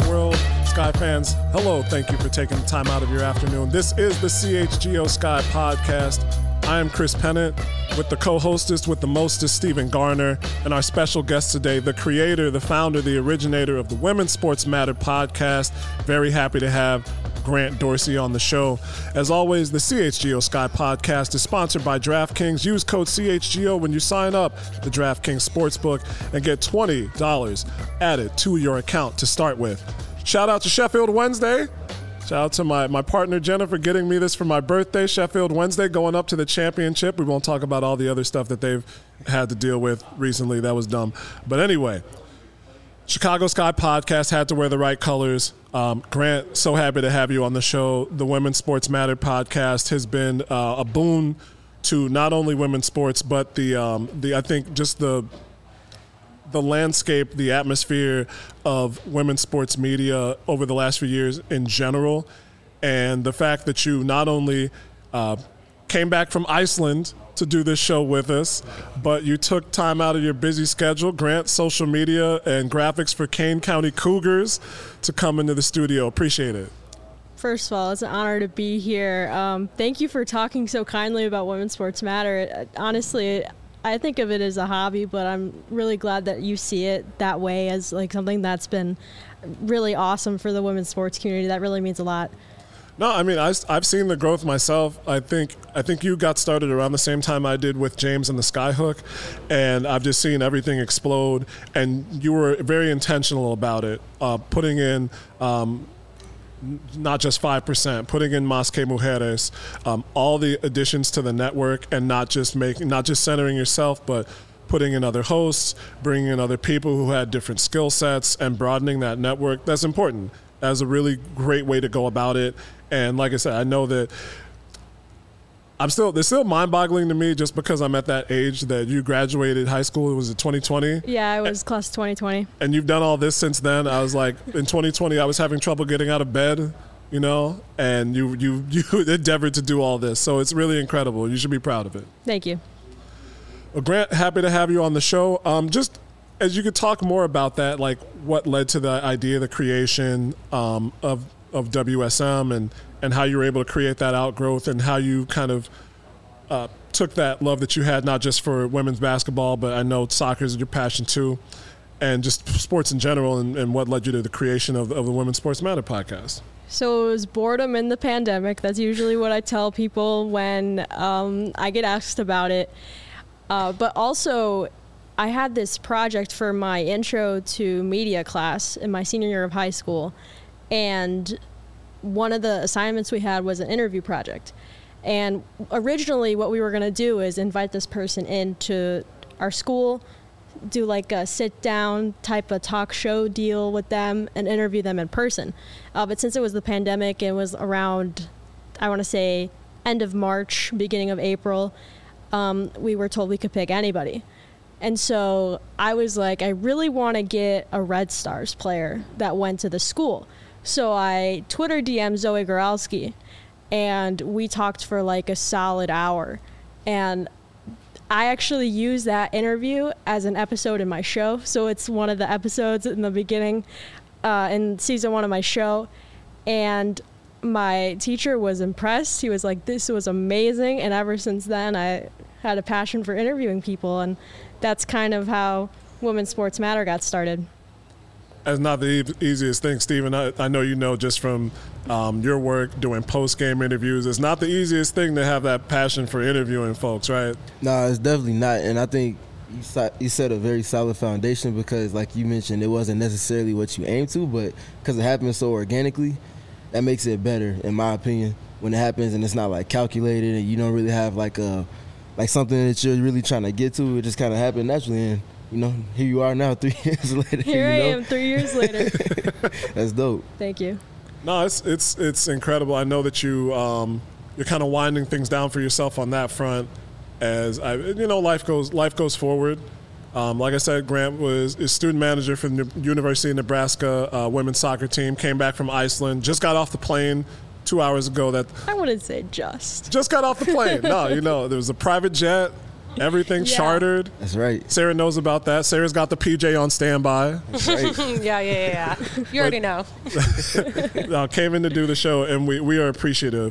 world. Sky fans, hello. Thank you for taking the time out of your afternoon. This is the CHGO Sky Podcast. I am Chris Pennant with the co-hostess with the mostest, Stephen Garner, and our special guest today, the creator, the founder, the originator of the Women's Sports Matter podcast. Very happy to have Grant Dorsey on the show. As always, the CHGO Sky Podcast is sponsored by DraftKings. Use code CHGO when you sign up the DraftKings Sportsbook and get $20 added to your account to start with. Shout out to Sheffield Wednesday. Shout out to my partner Jennifer getting me this for my birthday. Sheffield Wednesday going up to the championship. We won't talk about all the other stuff that they've had to deal with recently. That was dumb. But anyway, Chicago Sky Podcast had to wear the right colors. Grant, so happy to have you on the show. The Women's Sports Matter podcast has been a boon to not only women's sports, but the I think just the landscape, the atmosphere of women's sports media over the last few years in general. And the fact that you not only came back from Iceland to do this show with us, but you took time out of your busy schedule, Grant, social media and graphics for Kane County Cougars, to come into the studio. Appreciate it. First of all, it's an honor to be here. Thank you for talking so kindly about Women's Sports Matter. Honestly, I think of it as a hobby, but I'm really glad that you see it that way, as like something that's been really awesome for the women's sports community. That really means a lot. No, I mean, I've seen the growth myself. I think you got started around the same time I did with James and the Skyhook, and I've just seen everything explode. And you were very intentional about it, putting in not just 5%, putting in Más que Mujeres, all the additions to the network, and not just centering yourself, but putting in other hosts, bringing in other people who had different skill sets, and broadening that network. That's important. That's a really great way to go about it. And like I said, I know that it's still mind-boggling to me just because I'm at that age that you graduated high school. Was it 2020? Yeah, I was class 2020. And you've done all this since then. I was like, in 2020, I was having trouble getting out of bed, you know, and you endeavored to do all this. So it's really incredible. You should be proud of it. Thank you. Well, Grant, happy to have you on the show. Just as you could talk more about that, like what led to the idea, the creation of WSM and how you were able to create that outgrowth, and how you kind of took that love that you had, not just for women's basketball, but I know soccer is your passion too, and just sports in general, and what led you to the creation of the Women's Sports Matter podcast. So it was boredom in the pandemic. That's usually what I tell people when I get asked about it. But also, I had this project for my intro to media class in my senior year of high school, and one of the assignments we had was an interview project. And originally what we were going to do is invite this person into our school, do like a sit down type of talk show deal with them, and interview them in person. But since it was the pandemic, it was around, I want to say, end of March, beginning of April, we were told we could pick anybody. And so I was like, I really want to get a Red Stars player that went to the school. So I Twitter DM'd Zoe Goralski, and we talked for like a solid hour. And I actually used that interview as an episode in my show. So it's one of the episodes in the beginning in season 1 of my show. And my teacher was impressed. He was like, this was amazing. And ever since then, I had a passion for interviewing people. And that's kind of how Women's Sports Matter got started. That's not the easiest thing, Stephen. I know you know just from your work doing post-game interviews. It's not the easiest thing to have that passion for interviewing folks, right? No, it's definitely not. And I think you set a very solid foundation because, like you mentioned, it wasn't necessarily what you aimed to, but because it happened so organically, that makes it better, in my opinion, when it happens and it's not, like, calculated and you don't really have, like something that you're really trying to get to. It just kind of happened naturally, and you know, here you are now 3 years later. Here I am 3 years later. That's dope. Thank you. No, it's incredible. I know that you're kind of winding things down for yourself on that front, as life goes forward. Like I said, Grant is student manager for the University of Nebraska women's soccer team. Came back from Iceland, just got off the plane 2 hours ago. That I wouldn't say just got off the plane. No, there was a private jet. Everything chartered. That's right. Sarah knows about that. Sarah's got the PJ on standby. That's right. Yeah. You already know. Came in to do the show, and we are appreciative.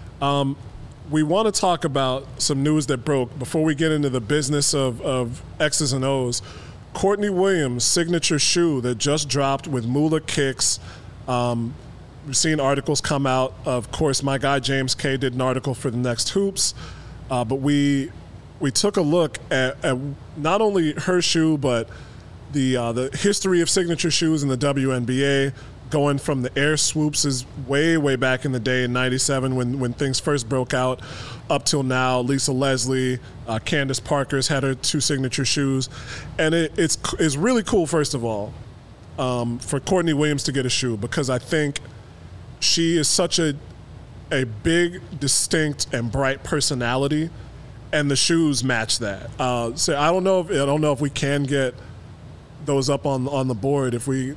We want to talk about some news that broke before we get into the business of X's and O's. Courtney Williams' signature shoe that just dropped with Mula Kicks. We've seen articles come out. Of course, my guy James K did an article for the Next Hoops, but we took a look at not only her shoe, but the history of signature shoes in the WNBA, going from the Air Swoops is way back in the day in '97 when things first broke out, up till now. Lisa Leslie, Candace Parker's had her 2 signature shoes, and it's really cool. First of all, for Courtney Williams to get a shoe, because I think she is such a big, distinct, and bright personality, and the shoes match that. So I don't know if we can get those up on the board if we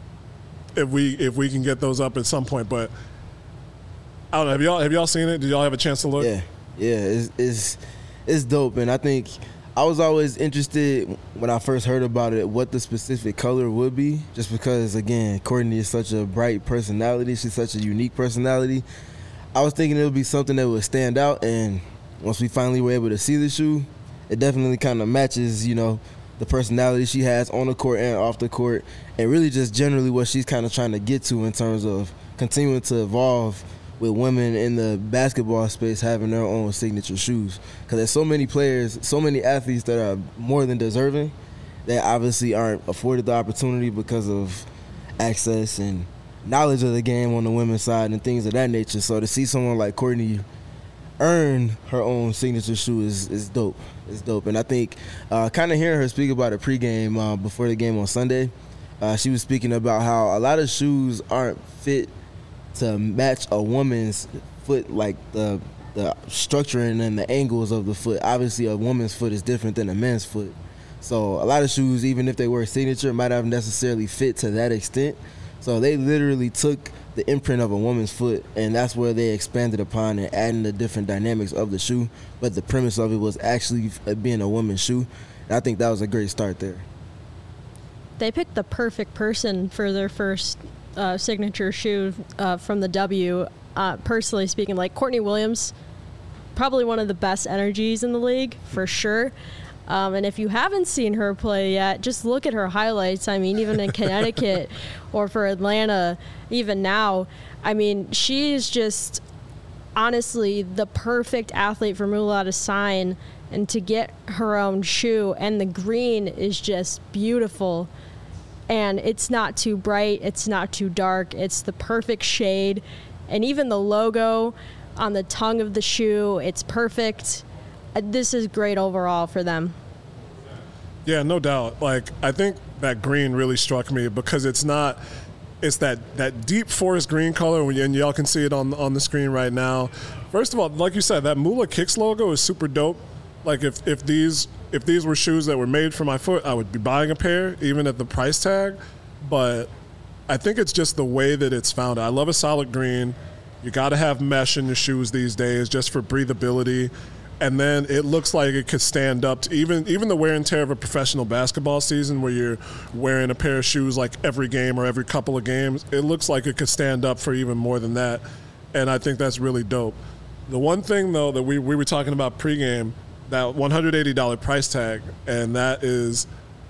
can get those up at some point. But I don't know. Have y'all seen it? Did y'all have a chance to look? Yeah. It's dope, and I think I was always interested when I first heard about it what the specific color would be, just because, again, Courtney is such a bright personality. She's such a unique personality. I was thinking it would be something that would stand out, and once we finally were able to see the shoe, it definitely kind of matches, the personality she has on the court and off the court, and really just generally what she's kind of trying to get to in terms of continuing to evolve with women in the basketball space having their own signature shoes. Because there's so many players, so many athletes that are more than deserving that obviously aren't afforded the opportunity because of access and knowledge of the game on the women's side and things of that nature. So to see someone like Courtney earn her own signature shoe is dope. It's dope. And I think kind of hearing her speak about it pregame before the game on Sunday, she was speaking about how a lot of shoes aren't fit to match a woman's foot, like the structuring and the angles of the foot. Obviously, a woman's foot is different than a man's foot. So a lot of shoes, even if they were signature, might not necessarily fit to that extent. So they literally took the imprint of a woman's foot, and that's where they expanded upon and adding the different dynamics of the shoe. But the premise of it was actually being a woman's shoe. And I think that was a great start there. They picked the perfect person for their first signature shoe from the W. Personally speaking, like Courtney Williams, probably one of the best energies in the league, for sure. And if you haven't seen her play yet, just look at her highlights. I mean, even in Connecticut or for Atlanta, even now, I mean, she is just honestly the perfect athlete for Mula to sign and to get her own shoe. And the green is just beautiful. And it's not too bright. It's not too dark. It's the perfect shade. And even the logo on the tongue of the shoe, it's perfect. This is great overall for them. Yeah, no doubt. Like, I think that green really struck me because it's that deep forest green color, and y'all can see it on the screen right now. First of all, like you said, that Mula Kicks logo is super dope. Like, if these were shoes that were made for my foot, I would be buying a pair, even at the price tag. But I think it's just the way that it's found. I love a solid green. You got to have mesh in your shoes these days just for breathability. And then it looks like it could stand up to even the wear and tear of a professional basketball season where you're wearing a pair of shoes like every game or every couple of games. It looks like it could stand up for even more than that. And I think that's really dope. The one thing, though, that we were talking about pregame, that $180 price tag, and that is,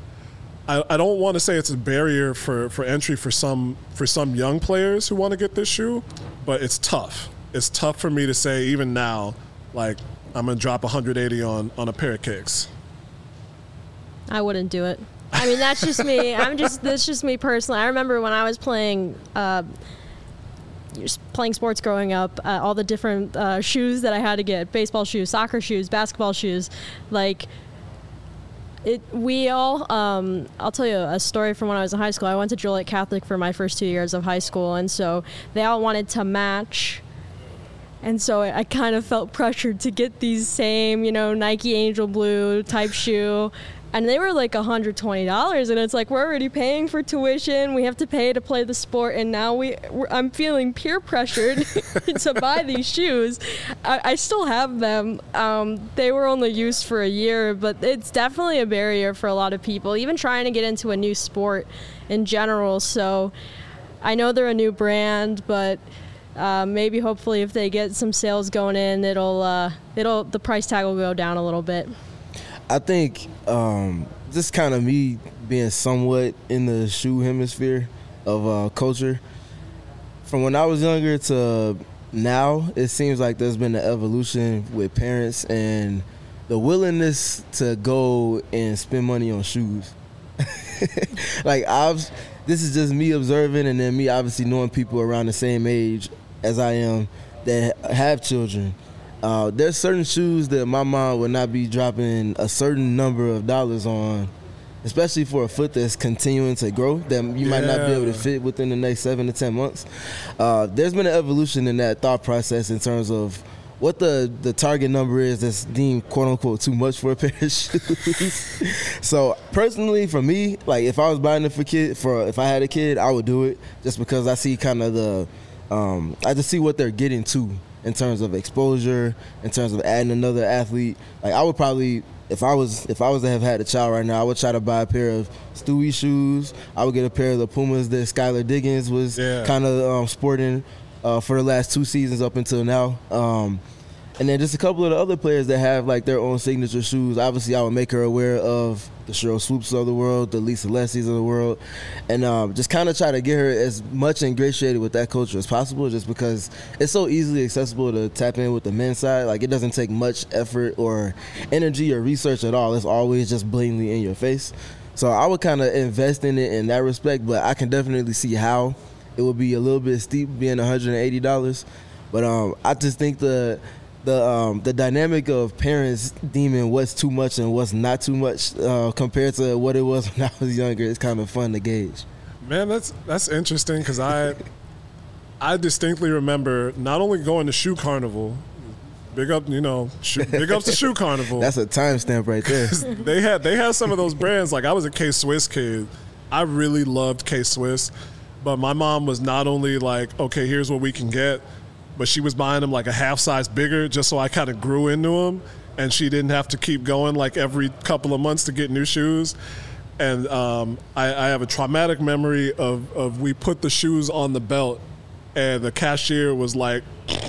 I don't want to say it's a barrier for entry for some young players who want to get this shoe, but it's tough. It's tough for me to say even now, like, I'm going to drop $180 on a pair of kicks. I wouldn't do it. I mean, that's just me. That's just me personally. I remember when I was playing sports growing up, all the different shoes that I had to get, baseball shoes, soccer shoes, basketball shoes. Like, I'll tell you a story from when I was in high school. I went to Joliet Catholic for my first 2 years of high school, and so they all wanted to match And so I kind of felt pressured to get these same, Nike Angel Blue type shoe. And they were like $120, and it's like, we're already paying for tuition. We have to pay to play the sport, and now I'm feeling peer pressured to buy these shoes. I still have them. They were only used for a year, but it's definitely a barrier for a lot of people, even trying to get into a new sport in general. So I know they're a new brand, but maybe hopefully if they get some sales going in, the price tag will go down a little bit. I think just kind of me being somewhat in the shoe hemisphere of culture, from when I was younger to now, it seems like there's been an evolution with parents and the willingness to go and spend money on shoes. Like, this is just me observing, and then me obviously knowing people around the same age as I am that have children. There's certain shoes that my mom would not be dropping a certain number of dollars on, especially for a foot that's continuing to grow, that you might not be able to fit within the next 7 to 10 months. There's been an evolution in that thought process in terms of what the target number is that's deemed quote-unquote too much for a pair of shoes. So personally, for me, like, if I was buying it if I had a kid, I would do it just because I see kind of I just see what they're getting to in terms of exposure, in terms of adding another athlete. Like, I would probably, if I was to have had a child right now, I would try to buy a pair of Stewie shoes. I would get a pair of the Pumas that Skylar Diggins was kind of sporting for the last 2 seasons up until now. And then just a couple of the other players that have like their own signature shoes. Obviously, I would make her aware of the Sheryl Swoops of the world, the Lisa Leslie's of the world, and just kind of try to get her as much ingratiated with that culture as possible, just because it's so easily accessible to tap in with the men's side. Like, it doesn't take much effort or energy or research at all. It's always just blatantly in your face. So I would kind of invest in it in that respect, but I can definitely see how it would be a little bit steep being $180. But I just think the dynamic of parents deeming what's too much and what's not too much compared to what it was when I was younger is kind of fun to gauge. Man, that's interesting, because I distinctly remember not only going to Shoe Carnival, big ups to Shoe Carnival. That's a timestamp right there. They had some of those brands. Like, I was a K-Swiss kid. I really loved K-Swiss, but my mom was not only like, okay, here's what we can get, but she was buying them like a half size bigger just so I kind of grew into them, and she didn't have to keep going like every couple of months to get new shoes. And I have a traumatic memory of we put the shoes on the belt, and the cashier was like,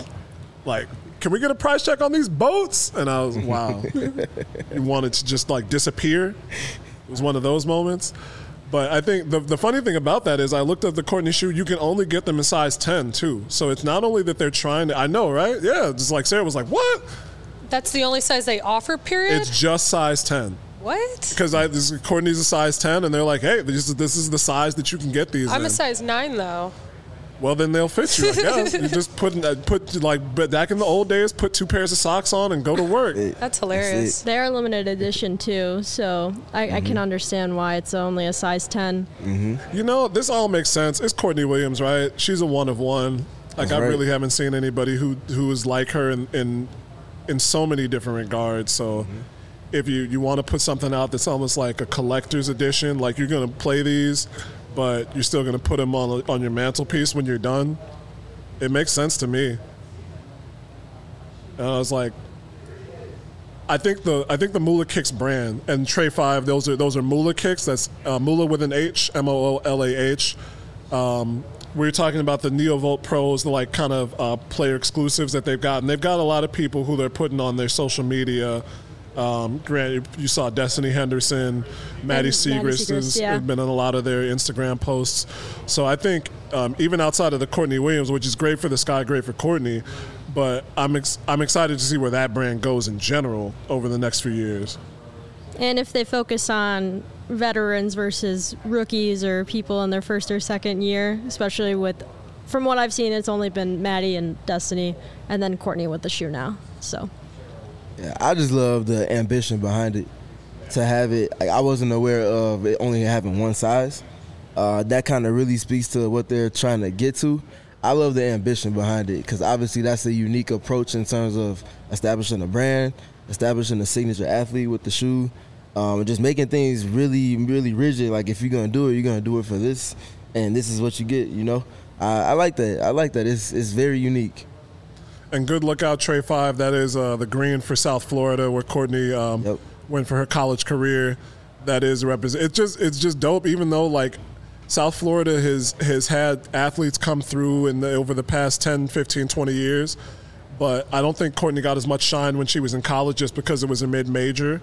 can we get a price check on these boats? And I was, wow. You wanted to just like disappear. It was one of those moments. But I think the funny thing about that is I looked at the Courtney shoe. You can only get them in size 10, too. So it's not only that they're trying to – I know, right? Yeah, just like Sarah was like, what? That's the only size they offer, period? It's just size 10. What? Because Courtney's a size 10, and they're like, hey, this is the size that you can get these I'm in. a size 9, though. Well, then they'll fit you, I guess. You just put like back in the old days, put 2 pairs of socks on and go to work. That's hilarious. They are limited edition too, so I can understand why it's only a size 10. Mm-hmm. This all makes sense. It's Courtney Williams, right? She's a one of one. Like, I really haven't seen anybody who is like her in so many different regards. So if you want to put something out that's almost like a collector's edition, like you're going to play these, but you're still going to put them on your mantelpiece when you're done, it makes sense to me. And I was like, I think the Moolah Kicks brand and Trey 5, those are Moolah Kicks. That's Moolah with an H, MOOLAH. We were talking about the NeoVolt Pros, the like kind of player exclusives that they've got, and they've got a lot of people who they're putting on their social media. Granted, you saw Destiny Henderson, Maddie Siegrist has been on a lot of their Instagram posts. So I think even outside of the Courtney Williams, which is great for the Sky, great for Courtney, but I'm excited to see where that brand goes in general over the next few years. And if they focus on veterans versus rookies or people in their first or second year, especially from what I've seen, it's only been Maddie and Destiny, and then Courtney with the shoe now. So. Yeah, I just love the ambition behind it. To have it, like, I wasn't aware of it only having one size. That kind of really speaks to what they're trying to get to. I love the ambition behind it because obviously that's a unique approach in terms of establishing a brand, establishing a signature athlete with the shoe, and just making things really, really rigid. Like if you're going to do it, you're going to do it for this, and this is what you get, you know. I like that. I like that. It's very unique. And good lookout, Trey 5. That is the green for South Florida where Courtney went for her college career. That is represent. It's just dope, even though like South Florida has had athletes come through over the past 10, 15, 20 years. But I don't think Courtney got as much shine when she was in college just because it was a mid-major.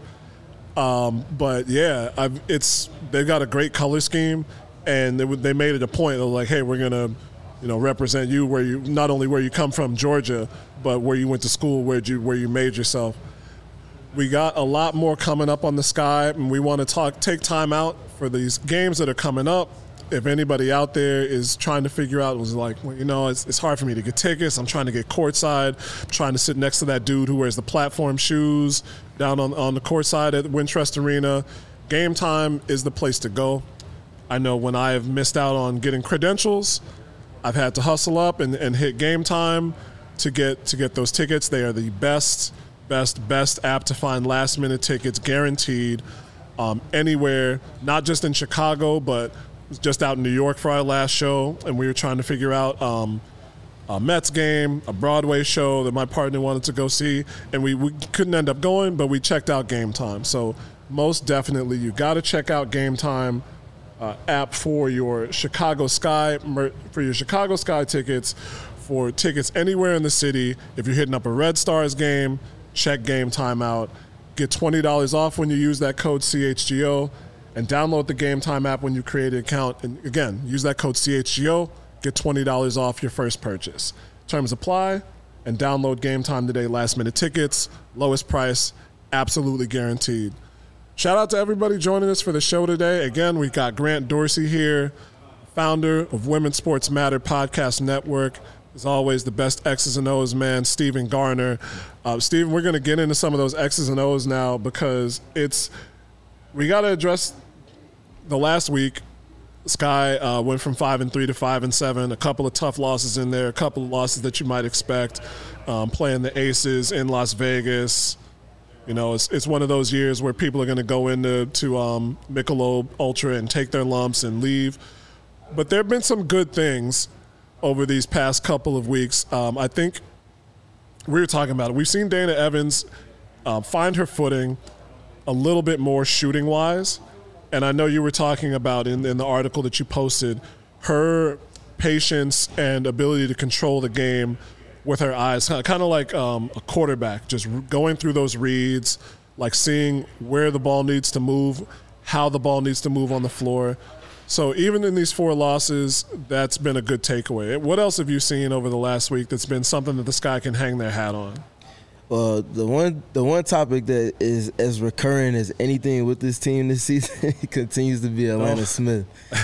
But yeah, they've got a great color scheme, and they made it a point of like, hey, we're gonna, represent you where you not only where you come from, Georgia, but where you went to school, where you made yourself. We got a lot more coming up on the Sky, and we want to take time out for these games that are coming up. If anybody out there is trying to figure out, was like, well, it's hard for me to get tickets. I'm trying to get courtside. I'm trying to sit next to that dude who wears the platform shoes down on the courtside at Wintrust Arena. Game Time is the place to go. I know when I have missed out on getting credentials, I've had to hustle up and hit Game Time to get those tickets. They are the best app to find last-minute tickets, guaranteed, anywhere, not just in Chicago, but just out in New York for our last show, and we were trying to figure out a Mets game, a Broadway show that my partner wanted to go see, and we couldn't end up going, but we checked out Game Time. So most definitely, you got to check out Game Time app for your Chicago Sky tickets, for tickets anywhere in the city. If you're hitting up a Red Stars game, check Game Time out. Get $20 off when you use that code CHGO. And download the Game Time app when you create an account. And again, use that code CHGO, get $20 off your first purchase. Terms apply, and download Game Time today. Last minute tickets, lowest price, absolutely guaranteed. Shout out to everybody joining us for the show today. Again, we got Grant Dorsey here, founder of Women's Sports Matter Podcast Network. As always, the best X's and O's man, Stephen Garner. Stephen, we're going to get into some of those X's and O's now because we got to address the last week. Sky went from 5-3 to 5-7. A couple of tough losses in there. A couple of losses that you might expect. Playing the Aces in Las Vegas. It's one of those years where people are going to go into Michelob Ultra and take their lumps and leave. But there have been some good things over these past couple of weeks. I think we were talking about it. We've seen Dana Evans find her footing a little bit more shooting-wise. And I know you were talking about in the article that you posted, her patience and ability to control the game with her eyes, kind of like a quarterback, just going through those reads, like seeing where the ball needs to move, how the ball needs to move on the floor. So even in these 4 losses, that's been a good takeaway. What else have you seen over the last week that's been something that the Sky can hang their hat on? Well, the one topic that is as recurring as anything with this team this season continues to be Atlanta Smith.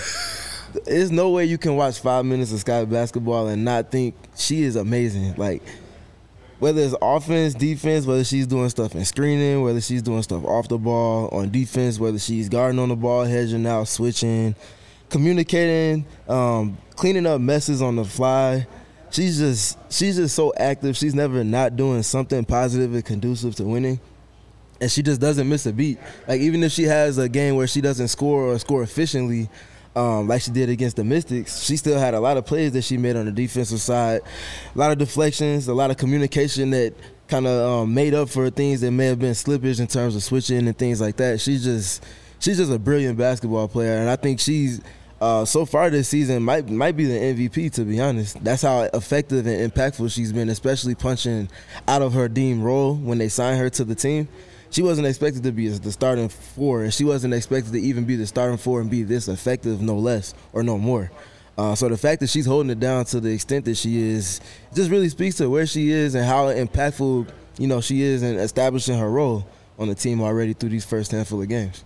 There's no way you can watch 5 minutes of Sky basketball and not think she is amazing. Like, whether it's offense, defense, whether she's doing stuff in screening, whether she's doing stuff off the ball, on defense, whether she's guarding on the ball, hedging out, switching, communicating, cleaning up messes on the fly. She's just so active. She's never not doing something positive and conducive to winning. And she just doesn't miss a beat. Like, even if she has a game where she doesn't score or score efficiently, like she did against the Mystics, she still had a lot of plays that she made on the defensive side. A lot of deflections, a lot of communication that kind of made up for things that may have been slippage in terms of switching and things like that. She's just a brilliant basketball player. And I think she's so far this season might be the MVP, to be honest. That's how effective and impactful she's been, especially punching out of her deemed role when they signed her to the team. She wasn't expected to be the starting 4, and she wasn't expected to even be the starting 4 and be this effective, no less or no more. So the fact that she's holding it down to the extent that she is just really speaks to where she is and how impactful she is in establishing her role on the team already through these first handful of games.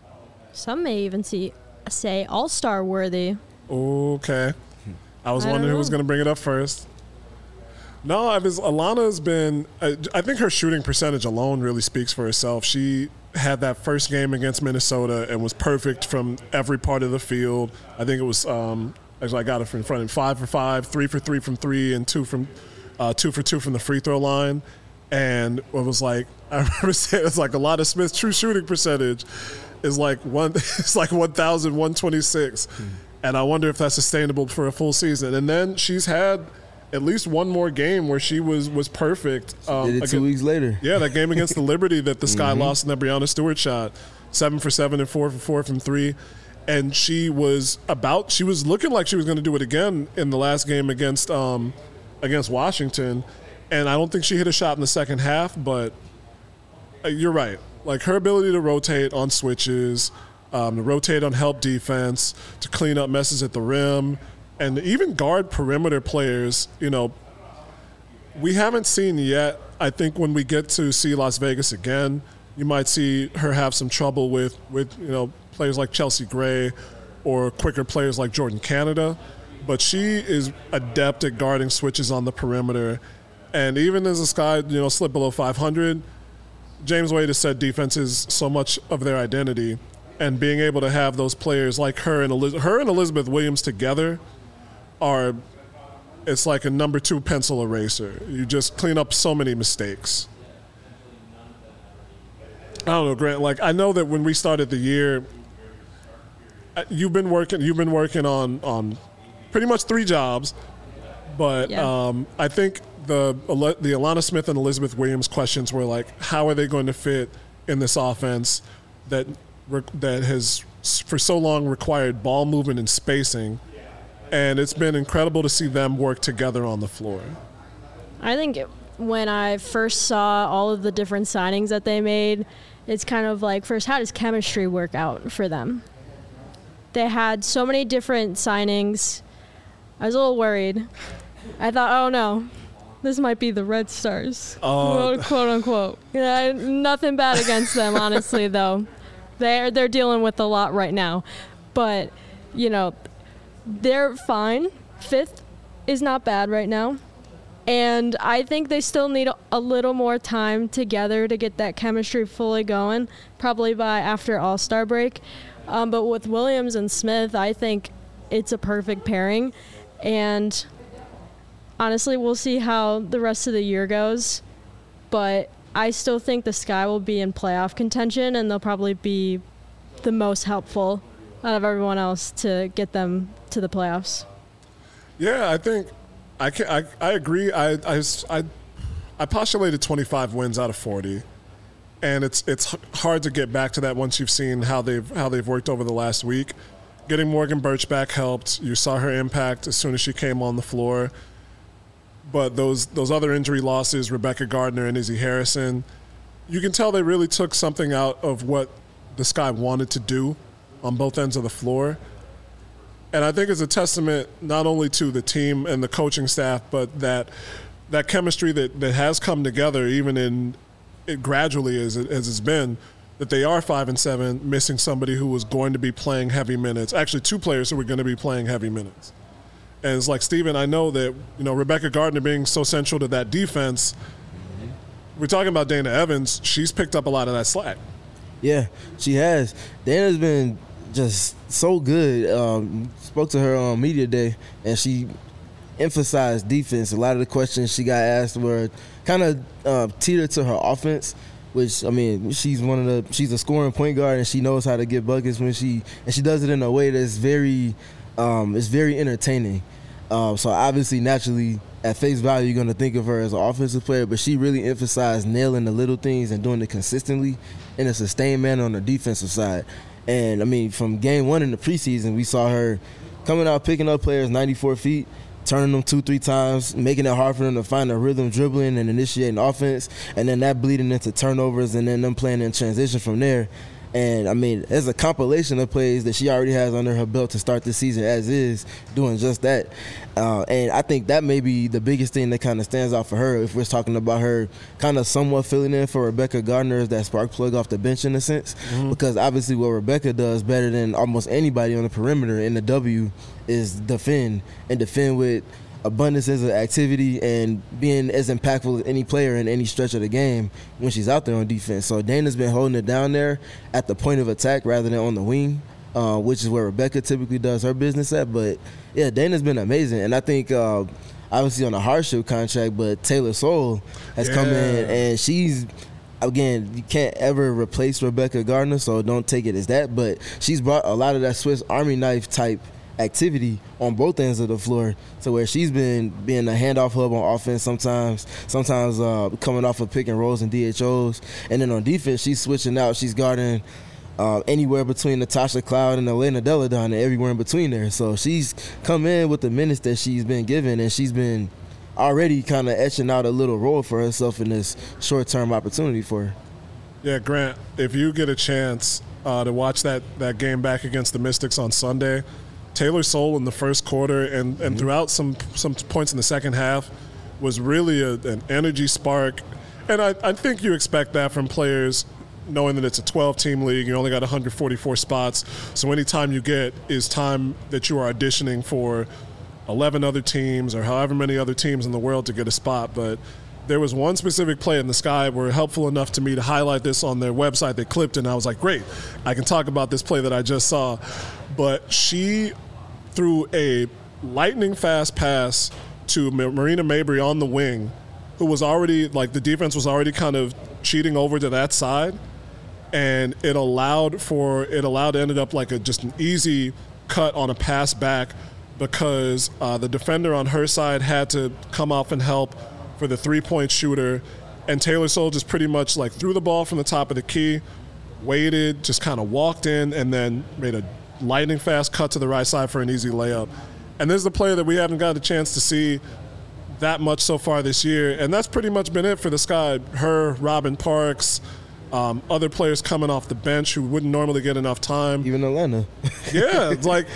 Some may even say all-star worthy. Okay. I was wondering who was going to bring it up first. No, Alana's been I think her shooting percentage alone really speaks for herself. She had that first game against Minnesota and was perfect from every part of the field. I think it was Actually, I got it from in front of him. 5 for 5, 3 for 3 from 3, and 2 for 2 from the free throw line. And it was like, I remember saying, it's like a lot of Smith's true shooting percentage is like it's like 1,126. And I wonder if that's sustainable for a full season. And then she's had at least one more game where she was perfect. Did it 2 weeks later. Yeah, that game against the Liberty that the Sky lost in that Breanna Stewart shot. 7 for 7 and 4 for 4 from 3. And she was looking like she was going to do it again in the last game against Washington. And I don't think she hit a shot in the second half, but you're right. Like her ability to rotate on switches, to rotate on help defense, to clean up messes at the rim, and even guard perimeter players, you know, we haven't seen yet. I think when we get to see Las Vegas again, you might see her have some trouble with you know, players like Chelsea Gray or quicker players like Jordan Canada. But she is adept at guarding switches on the perimeter. And even as the Sky, you know, slip below 500, James Wade has said defense is so much of their identity. And being able to have those players like her and Elizabeth Williams together it's like a number 2 pencil eraser. You just clean up so many mistakes. I don't know, Grant. Like I know that when we started the year, you've been working on pretty much 3 jobs, but Yeah. I think the Alana Smith and Elizabeth Williams questions were like, how are they going to fit in this offense that has for so long required ball movement and spacing, and it's been incredible to see them work together on the floor. I think when I first saw all of the different signings that they made, it's kind of like, first, how does chemistry work out for them? They had so many different signings. I was a little worried. I thought, oh no, this might be the Red Stars, quote unquote. Yeah, nothing bad against them, honestly, though. They're dealing with a lot right now. But, you know, they're fine. 5th is not bad right now. And I think they still need a little more time together to get that chemistry fully going, probably by after All-Star break. But with Williams and Smith, I think it's a perfect pairing. And honestly, we'll see how the rest of the year goes. But I still think the Sky will be in playoff contention, and they'll probably be the most helpful out of everyone else to get them to the playoffs. Yeah, I think I agree. I postulated 25 wins out of 40, and it's hard to get back to that once you've seen how they've worked over the last week. Getting Morgan Birch back helped. You saw her impact as soon as she came on the floor. But those other injury losses, Rebecca Gardner and Izzy Harrison, you can tell they really took something out of what the Sky wanted to do on both ends of the floor. And I think it's a testament not only to the team and the coaching staff, but that chemistry that has come together, even in it gradually as it's been, that they are 5-7, missing somebody who was going to be playing heavy minutes. Actually, 2 players who were going to be playing heavy minutes. And it's like, Steven, I know that, you know, Rebecca Gardner being so central to that defense, we're talking about Dana Evans, she's picked up a lot of that slack. Yeah, she has. Dana's been just so good. Spoke to her on media day, and she emphasized defense. A lot of the questions she got asked were kind of teetered to her offense, which, I mean, she's a scoring point guard, and she knows how to get buckets and she does it in a way that's very entertaining. So obviously, naturally, at face value, you're going to think of her as an offensive player, but she really emphasized nailing the little things and doing it consistently in a sustained manner on the defensive side. And, I mean, from game 1 in the preseason, we saw her coming out, picking up players 94 feet, turning them 2-3 times, making it hard for them to find a rhythm, dribbling and initiating offense, and then that bleeding into turnovers and then them playing in transition from there. And, I mean, there's a compilation of plays that she already has under her belt to start the season as is, doing just that. And I think that may be the biggest thing that kind of stands out for her if we're talking about her kind of somewhat filling in for Rebecca Gardner as that spark plug off the bench in a sense. Mm-hmm. Because obviously what Rebecca does better than almost anybody on the perimeter in the W is defend, and defend with abundances of activity and being as impactful as any player in any stretch of the game when she's out there on defense. So Dana's been holding it down there at the point of attack rather than on the wing. which is where Rebecca typically does her business at. But yeah, Dana's been amazing, and I think obviously on a hardship contract, but Taylor Soule has come in, and she's. Again, you can't ever replace Rebecca Gardner, so don't take it as that. But she's brought a lot of that Swiss Army knife type activity on both ends of the floor, to where she's been being a handoff hub on offense sometimes coming off of pick and rolls and DHOs. And then on defense, she's switching out. She's guarding anywhere between Natasha Cloud and Elena Deladon and everywhere in between there. So she's come in with the minutes that she's been given, and she's been already kind of etching out a little role for herself in this short-term opportunity for her. Yeah, Grant, if you get a chance to watch that game back against the Mystics on Sunday, Taylor Soule in the first quarter and throughout some points in the second half was really an energy spark. And I think you expect that from players, knowing that it's a 12-team league. You only got 144 spots. So any time you get is time that you are auditioning for 11 other teams or however many other teams in the world to get a spot. But there was one specific play in the Sky were helpful enough to me to highlight this on their website. They clipped it, and I was like, great, I can talk about this play that I just saw. But she threw a lightning fast pass to Marina Mabry on the wing, who was already, like, the defense was already kind of cheating over to that side. And it ended up like just an easy cut on a pass back, because the defender on her side had to come off and help for the three-point shooter, and Taylor Soule just pretty much like threw the ball from the top of the key, waited, just kind of walked in, and then made a lightning fast cut to the right side for an easy layup. And this is a player that we haven't got a chance to see that much so far this year, and that's pretty much been it for the Sky. Her, Robin Parks, other players coming off the bench who wouldn't normally get enough time. Even Atlanta. Yeah, it's like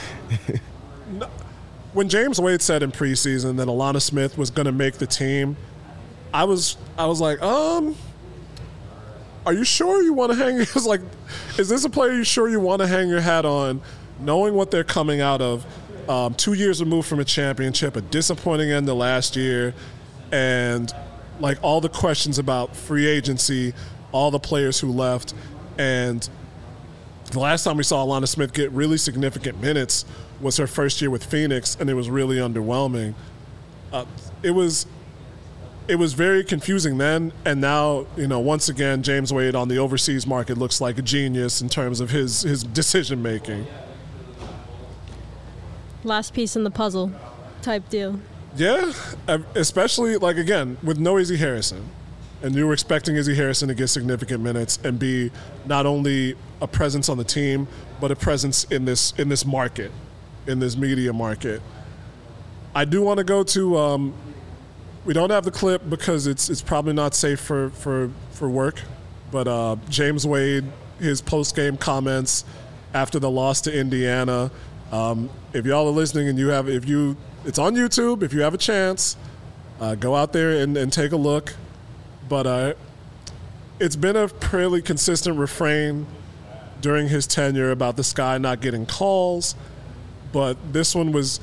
when James Wade said in preseason that Alana Smith was going to make the team, I was like, are you sure you want to hang? It was like, is this a player you sure you want to hang your hat on, knowing what they're coming out of? 2 years removed from a championship, a disappointing end to last year, and like all the questions about free agency, all the players who left. And the last time we saw Alana Smith get really significant minutes was her first year with Phoenix, and it was really underwhelming. It was very confusing then, and now, once again, James Wade on the overseas market looks like a genius in terms of his decision making. Last piece in the puzzle type deal. Yeah, especially, like, again, with no Izzy Harrison. And you were expecting Izzy Harrison to get significant minutes and be not only a presence on the team, but a presence in this market, in this media market. I do want to go to we don't have the clip because it's probably not safe for work, but James Wade, his post-game comments after the loss to Indiana. If y'all are listening and it's on YouTube, if you have a chance, go out there and take a look. But it's been a fairly consistent refrain during his tenure about the Sky not getting calls. But this one was,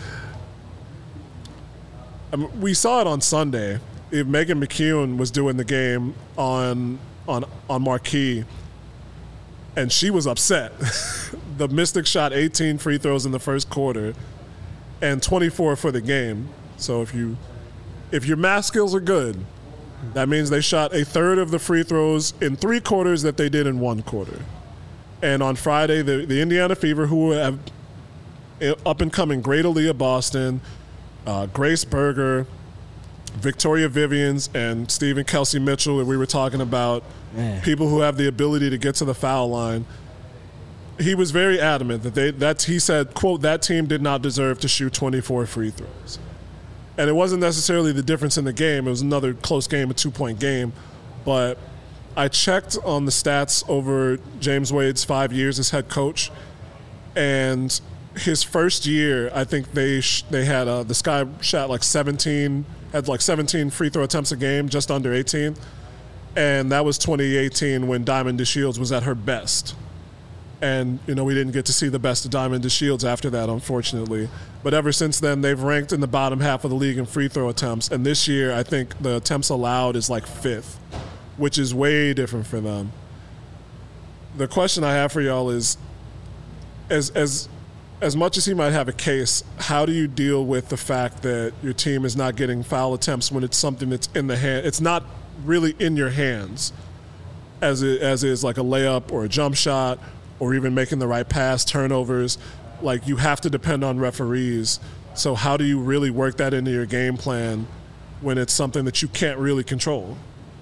we saw it on Sunday. If Megan McKeown was doing the game on Marquee, and she was upset. The Mystics shot 18 free throws in the first quarter and 24 for the game. So if your math skills are good, that means they shot a third of the free throws in 3 quarters that they did in 1 quarter. And on Friday, the Indiana Fever, who have up-and-coming great Aaliyah Boston, Grace Berger, Victoria Vivians, and Stephen Kelsey Mitchell that we were talking about, people who have the ability to get to the foul line, he was very adamant that he said, quote, that team did not deserve to shoot 24 free throws. And it wasn't necessarily the difference in the game. It was another close game, a 2-point game. But I checked on the stats over James Wade's 5 years as head coach. And his first year, I think they had the Sky shot like 17 free throw attempts a game, just under 18. And that was 2018 when Diamond DeShields was at her best. And, we didn't get to see the best of Diamond DeShields after that, unfortunately. But ever since then, they've ranked in the bottom half of the league in free throw attempts. And this year, I think the attempts allowed is like 5th, which is way different for them. The question I have for y'all is, as much as he might have a case, how do you deal with the fact that your team is not getting foul attempts when it's something that's in the hand? It's not really in your hands, as is like a layup or a jump shot or even making the right pass, turnovers. Like, you have to depend on referees. So how do you really work that into your game plan when it's something that you can't really control?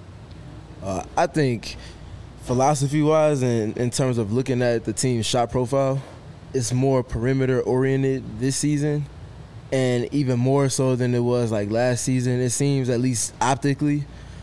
I think philosophy-wise and in terms of looking at the team's shot profile, it's more perimeter-oriented this season, and even more so than it was like last season, it seems, at least optically.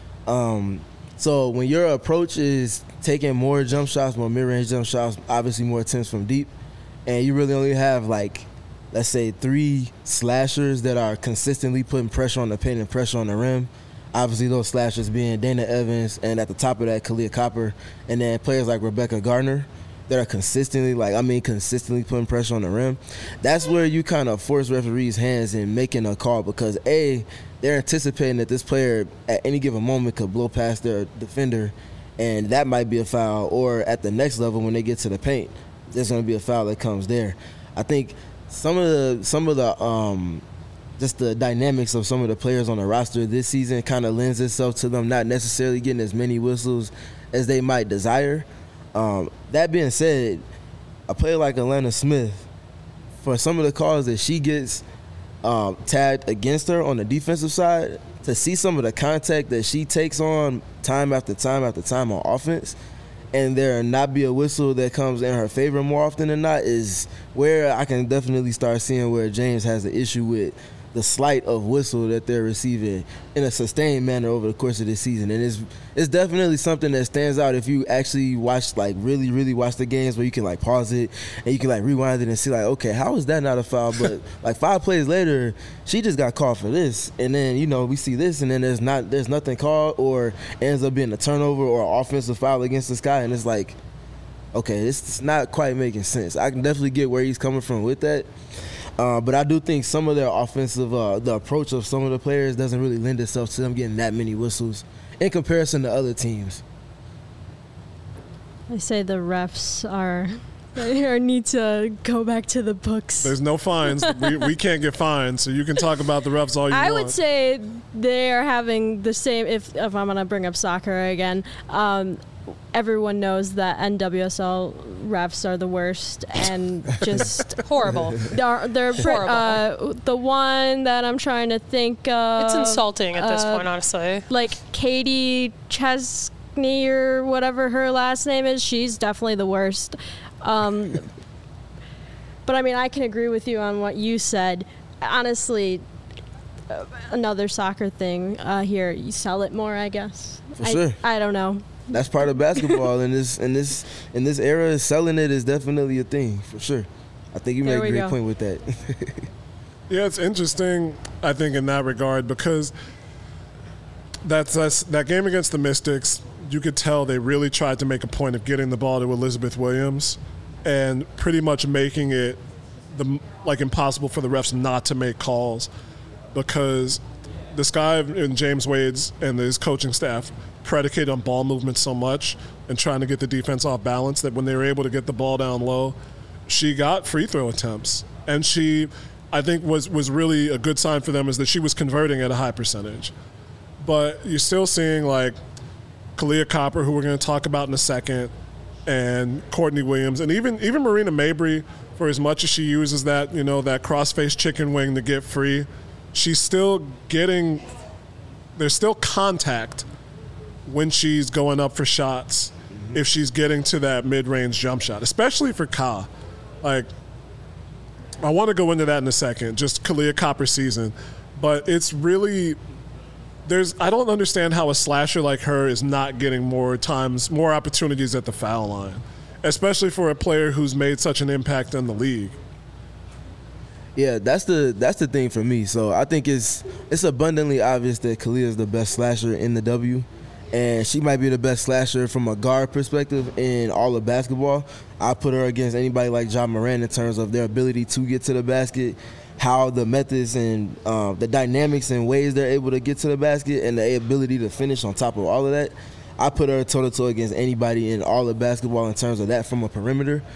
So when your approach is taking more jump shots, more mid-range jump shots, obviously more attempts from deep, and you really only have, like, let's say 3 slashers that are consistently putting pressure on the paint and pressure on the rim, obviously those slashers being Dana Evans, and at the top of that, Kahleah Copper, and then players like Rebecca Gardner that are consistently putting pressure on the rim. That's where you kind of force referees' hands in making a call, because A, they're anticipating that this player at any given moment could blow past their defender, and that might be a foul, or at the next level when they get to the paint, there's going to be a foul that comes there. I think some of the just the dynamics of some of the players on the roster this season kind of lends itself to them not necessarily getting as many whistles as they might desire. That being said, a player like Alanna Smith, for some of the calls that she gets tagged against her on the defensive side, to see some of the contact that she takes on time after time after time on offense, and there not be a whistle that comes in her favor more often than not, is where I can definitely start seeing where James has an issue with the slight of whistle that they're receiving in a sustained manner over the course of this season. And it's definitely something that stands out if you actually watch, like, really, really watch the games, where you can, like, pause it and you can, like, rewind it and see, like, okay, how is that not a foul? But like 5 plays later, she just got called for this, and then, you know, we see this, and then there's nothing called, or ends up being a turnover or an offensive foul against this guy, and it's like, okay, it's not quite making sense. I can definitely get where he's coming from with that. But I do think some of their offensive, the approach of some of the players doesn't really lend itself to them getting that many whistles in comparison to other teams. I say the refs need to go back to the books. There's no fines. we can't get fined, so you can talk about the refs all you want. I would say they are having the same, if I'm going to bring up soccer again, everyone knows that NWSL refs are the worst and just horrible. They're horrible. The one that I'm trying to think of. It's insulting at this point, honestly. Like Katie Chesney or whatever her last name is, she's definitely the worst. But I mean, I can agree with you on what you said. Honestly, another soccer thing here, you sell it more, I guess. For sure. I don't know. That's part of basketball. in this era, selling it is definitely a thing, for sure. I think you made a great point with that. Yeah, it's interesting, I think, in that regard, because that game against the Mystics, you could tell they really tried to make a point of getting the ball to Elizabeth Williams and pretty much making it impossible for the refs not to make calls, because this guy and James Wade's and his coaching staff predicated on ball movement so much and trying to get the defense off balance that when they were able to get the ball down low, she got free throw attempts. And she, I think, was really a good sign for them, is that she was converting at a high percentage. But you're still seeing, like, Kahleah Copper, who we're going to talk about in a second, and Courtney Williams, and even Marina Mabry, for as much as she uses that, you know, that cross-face chicken wing to get free, she's still getting – there's still contact when she's going up for shots, if she's getting to that mid-range jump shot, especially for Ka. Like, I want to go into that in a second, just Kahleah Copper's season. But it's really – I don't understand how a slasher like her is not getting more opportunities at the foul line, especially for a player who's made such an impact in the league. Yeah, that's the thing for me. So I think it's abundantly obvious that Kahleah is the best slasher in the W. And she might be the best slasher from a guard perspective in all of basketball. I put her against anybody like Ja Morant in terms of their ability to get to the basket, how the methods and the dynamics and ways they're able to get to the basket, and the ability to finish on top of all of that. I put her toe-to-toe against anybody in all of basketball in terms of that from a perimeter.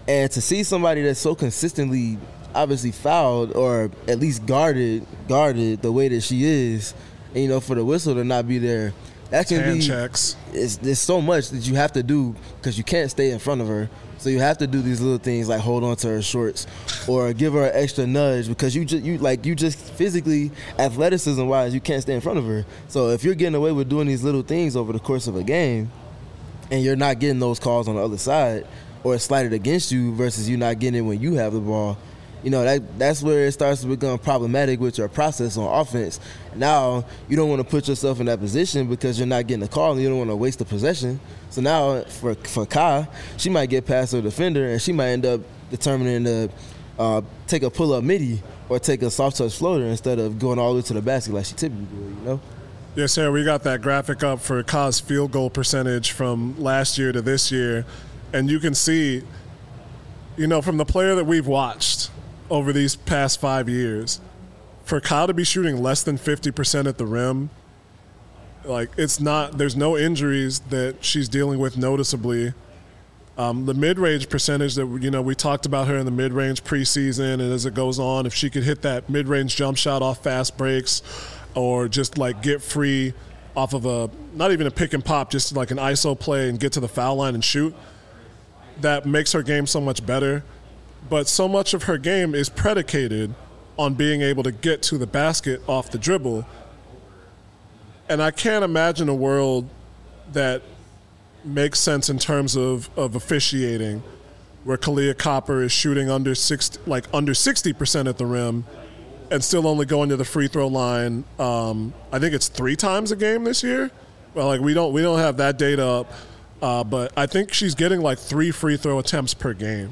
And to see somebody that's so consistently obviously fouled or at least guarded the way that she is, and, you know, for the whistle to not be there, that can Hand be checks. There's so much that you have to do because you can't stay in front of her. So you have to do these little things like hold on to her shorts or give her an extra nudge because you just physically, athleticism wise, you can't stay in front of her. So if you're getting away with doing these little things over the course of a game and you're not getting those calls on the other side or it's slighted against you versus you not getting it when you have the ball, you know, that's where it starts to become problematic with your process on offense. Now, you don't want to put yourself in that position because you're not getting a call and you don't want to waste the possession. So now, for Kai, she might get past her defender and she might end up determining to take a pull-up midi or take a soft-touch floater instead of going all the way to the basket like she typically do, you know? Yes, sir. We got that graphic up for Kai's field goal percentage from last year to this year. And you can see, you know, from the player that we've watched over these past 5 years, for Kai to be shooting less than 50% at the rim, like, it's not, there's no injuries that she's dealing with noticeably. The mid-range percentage that, you know, we talked about her in the mid-range preseason, and as it goes on, if she could hit that mid-range jump shot off fast breaks or just, like, get free off of a, not even a pick and pop, just like an ISO play and get to the foul line and shoot, that makes her game so much better. But so much of her game is predicated on being able to get to the basket off the dribble. And I can't imagine a world that makes sense in terms of officiating where Kahleah Copper is shooting under 60% at the rim and still only going to the free throw line. I think it's 3 times a game this year. Well, like we don't have that data up, but I think she's getting like 3 free throw attempts per game.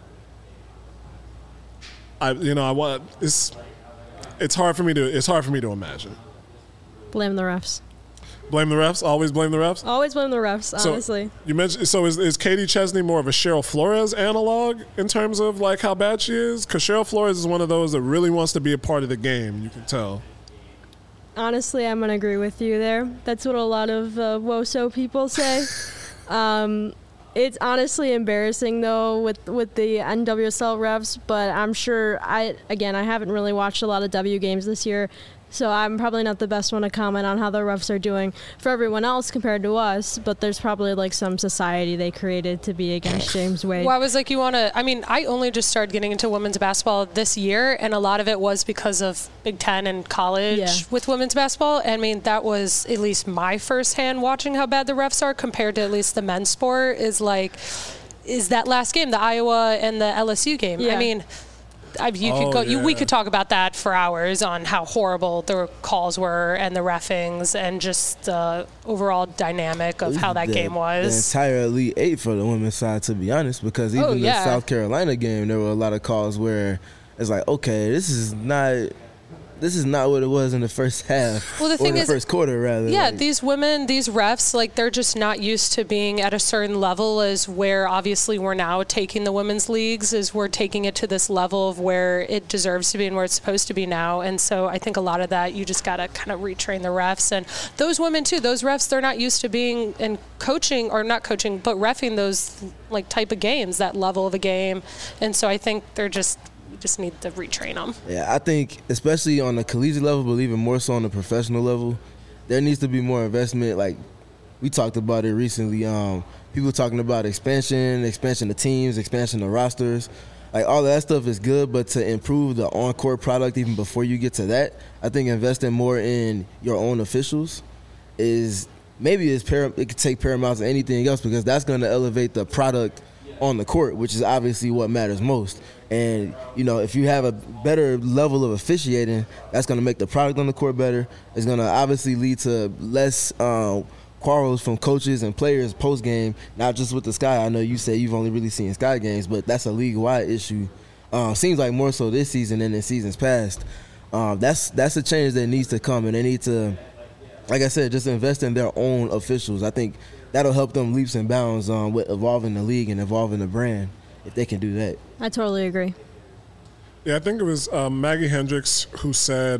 It's hard for me to imagine. Blame the refs. Blame the refs? Always blame the refs? Always blame the refs, honestly. So you mentioned, is Katie Chesney more of a Cheryl Flores analog in terms of like how bad she is? Because Cheryl Flores is one of those that really wants to be a part of the game, you can tell. Honestly, I'm going to agree with you there. That's what a lot of WOSO people say. It's honestly embarrassing, though, with the NWSL refs, but I'm sure I haven't really watched a lot of W games this year, so I'm probably not the best one to comment on how the refs are doing for everyone else compared to us, but there's probably like some society they created to be against James Wade. Well, I was like, I only just started getting into women's basketball this year, and a lot of it was because of Big Ten and college with women's basketball. I mean, that was at least my firsthand watching how bad the refs are compared to at least the men's sport is that last game, the Iowa and the LSU game. Yeah. I mean, we could talk about that for hours on how horrible the calls were and the reffings and just the overall dynamic of how that game was. The entire Elite Eight for the women's side, to be honest, because even the South Carolina game, there were a lot of calls where it's like, okay, this is not what it was in the first half. Well, the thing is, first quarter, rather. Yeah, these women, these refs, like, they're just not used to being at a certain level as where obviously we're now taking the women's leagues, is we're taking it to this level of where it deserves to be and where it's supposed to be now. And so I think a lot of that, you just got to kind of retrain the refs. And those women, too, those refs, they're not used to being and coaching, or not coaching, but reffing those, like, type of games, that level of a game. And so I think they're just need to retrain them. Yeah, I think especially on the collegiate level, but even more so on the professional level, there needs to be more investment. Like we talked about it recently. People talking about expansion of teams, expansion of rosters. Like all of that stuff is good, but to improve the on-court product even before you get to that, I think investing more in your own officials is maybe it could take paramount to anything else, because that's going to elevate the product on the court, which is obviously what matters most. And, you know, if you have a better level of officiating, that's going to make the product on the court better. It's going to obviously lead to less quarrels from coaches and players post-game, not just with the Sky. I know you say you've only really seen Sky games, but that's a league-wide issue. Seems like more so this season than in seasons past. That's a change that needs to come, and they need to, like I said, just invest in their own officials. I think that'll help them leaps and bounds with evolving the league and evolving the brand, if they can do that. I totally agree. Yeah, I think it was Maggie Hendricks who said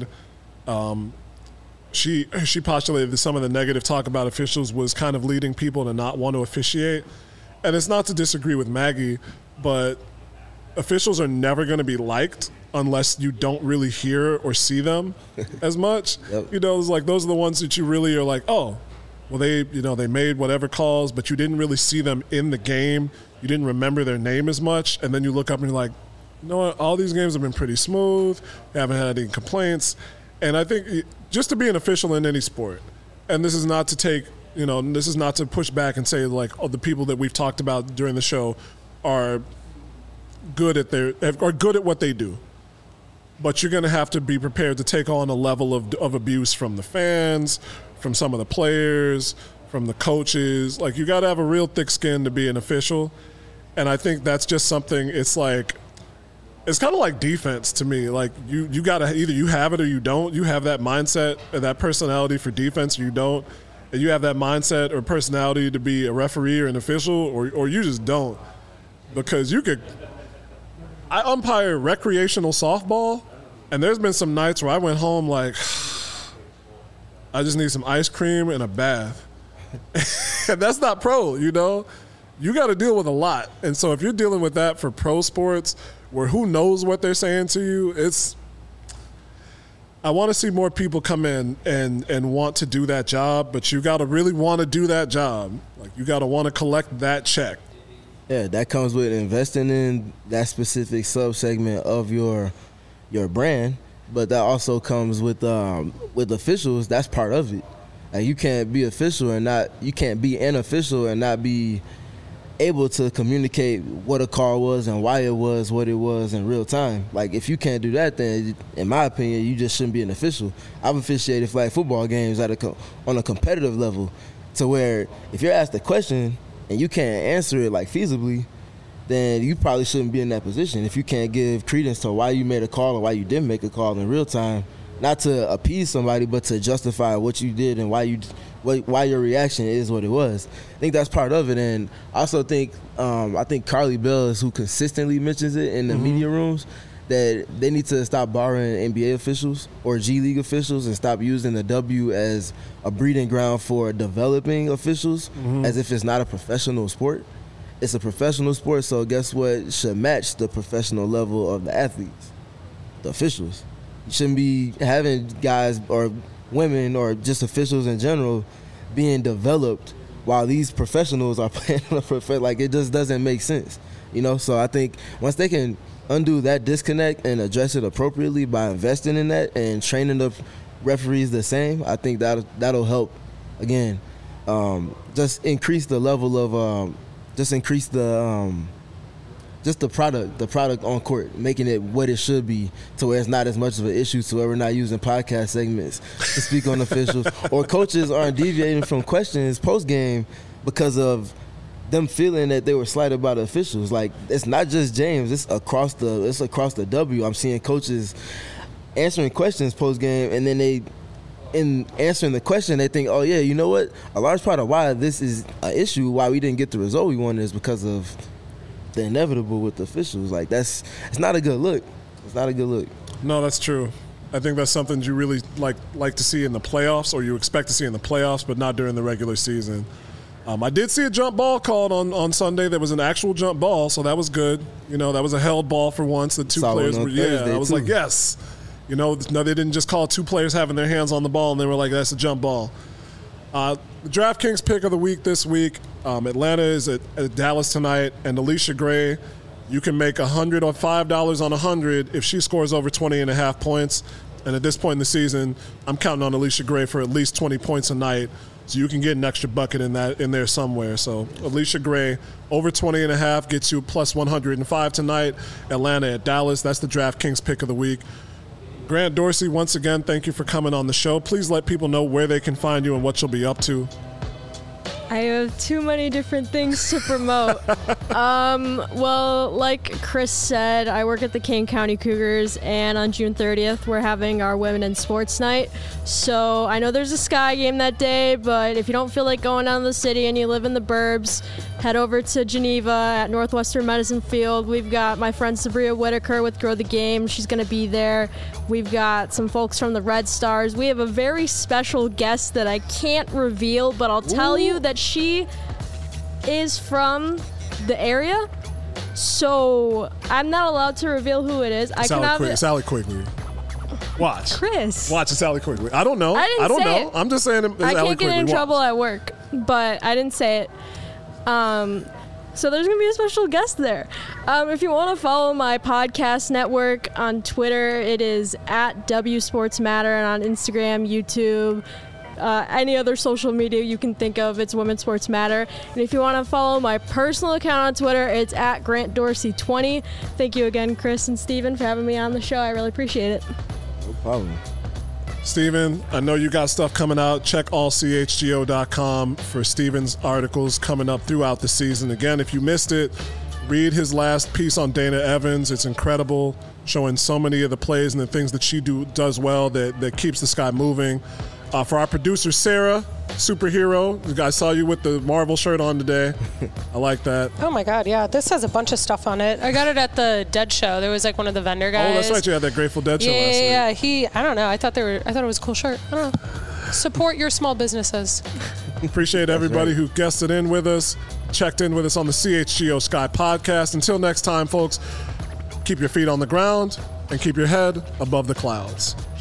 she postulated that some of the negative talk about officials was kind of leading people to not want to officiate. And it's not to disagree with Maggie, but officials are never going to be liked unless you don't really hear or see them as much. Yep. You know, it's like those are the ones that you really are like, oh, well, they made whatever calls, but you didn't really see them in the game. You didn't remember their name as much, and then you look up and you're like, you know what, all these games have been pretty smooth. We haven't had any complaints. And I think just to be an official in any sport, and this is not to take, this is not to push back and say like, oh, the people that we've talked about during the show are good at what they do. But you're going to have to be prepared to take on a level of abuse from the fans, from some of the players, from the coaches. Like, you got to have a real thick skin to be an official. And I think that's just something, it's kind of like defense to me. Like, you got to either you have it or you don't. You have that mindset and that personality for defense or you don't. And you have that mindset or personality to be a referee or an official or you just don't. Because I umpire recreational softball, and there's been some nights where I went home like, I just need some ice cream and a bath. And that's not pro, You got to deal with a lot. And so if you're dealing with that for pro sports where who knows what they're saying to you, I want to see more people come in and want to do that job, but you got to really want to do that job. Like, you got to want to collect that check. Yeah, that comes with investing in that specific sub-segment of your brand, but that also comes with officials. That's part of it. Like, you can't be you can't be an official and not be able to communicate what a call was and why it was what it was in real time. Like, if you can't do that, then in my opinion, you just shouldn't be an official. I've officiated flag football games on a competitive level, to where if you're asked a question and you can't answer it like feasibly, then you probably shouldn't be in that position. If you can't give credence to why you made a call or why you didn't make a call in real time, not to appease somebody, but to justify what you did and why your reaction is what it was. I think that's part of it. And I also think I think Carly Bell is who consistently mentions it in the media rooms, that they need to stop borrowing NBA officials or G League officials and stop using the W as a breeding ground for developing officials, as if it's not a professional sport. It's a professional sport, so guess what should match the professional level of the athletes? The officials. You shouldn't be having guys or women or just officials in general being developed while these professionals are playing on a like, it just doesn't make sense. So I think once they can undo that disconnect and address it appropriately by investing in that and training the referees the same, I think that'll help, again, just increase the level of just the product on court, making it what it should be, to where it's not as much of an issue, to where we're not using podcast segments to speak on officials, or coaches aren't deviating from questions post-game because of them feeling that they were slighted by the officials. Like, it's not just James, it's across the W. I'm seeing coaches answering questions post-game, and then in answering the question, they think, oh yeah, you know what? A large part of why this is an issue, why we didn't get the result we wanted, is because of the inevitable with the officials. Like, it's not a good look. It's not a good look. No, that's true. I think that's something you really like to see in the playoffs, or you expect to see in the playoffs, but not during the regular season. I did see a jump ball called on Sunday. There was an actual jump ball, so that was good. That was a held ball for once. The two players were, I was like, yes. No, they didn't just call two players having their hands on the ball and they were like, that's a jump ball. The DraftKings pick of the week this week, Atlanta is at Dallas tonight, and Alicia Gray, you can make $100 or $5 on 100 if she scores over 20.5 points. And at this point in the season, I'm counting on Alicia Gray for at least 20 points a night, so you can get an extra bucket in there somewhere. So Alicia Gray over 20.5 gets you plus 105 tonight. Atlanta at Dallas. That's the DraftKings pick of the week. Grant Dorsey, once again, thank you for coming on the show. Please let people know where they can find you and what you'll be up to. I have too many different things to promote. Well, like Chris said, I work at the Kane County Cougars, and on June 30th, we're having our Women in Sports Night. So I know there's a Sky game that day, but if you don't feel like going down to the city and you live in the burbs, head over to Geneva at Northwestern Medicine Field. We've got my friend Sabria Whitaker with Grow the Game. She's going to be there. We've got some folks from the Red Stars. We have a very special guest that I can't reveal, but I'll tell you that she is from the area. So I'm not allowed to reveal who it is. It's Allie Quigley. Watch. Chris. Watch, it's Allie Quigley. I don't know. I don't know. I'm just saying it's I Allie can't Quigley. get in Watch. trouble at work, but I didn't say it. So there's going to be a special guest there. If you want to follow my podcast network on Twitter, it is at WSportsMatter, and on Instagram, YouTube, any other social media you can think of, it's Women's Sports Matter. And if you want to follow my personal account on Twitter, it's at GrantDorsey20. Thank you again, Chris and Steven, for having me on the show. I really appreciate it. No problem. Steven, I know you got stuff coming out. Check allchgo.com for Steven's articles coming up throughout the season. Again, if you missed it, read his last piece on Dana Evans. It's incredible, showing so many of the plays and the things that she does well that keeps the Sky moving. For our producer, Sarah, superhero, I saw you with the Marvel shirt on today. I like that. Oh my God, yeah. This has a bunch of stuff on it. I got it at the Dead show. There was like one of the vendor guys. Oh, that's right. You had that Grateful Dead show last week. Yeah. I don't know. I thought it was a cool shirt. I don't know. Support your small businesses. Appreciate everybody who guested in with us, checked in with us on the CHGO Sky podcast. Until next time, folks, keep your feet on the ground and keep your head above the clouds.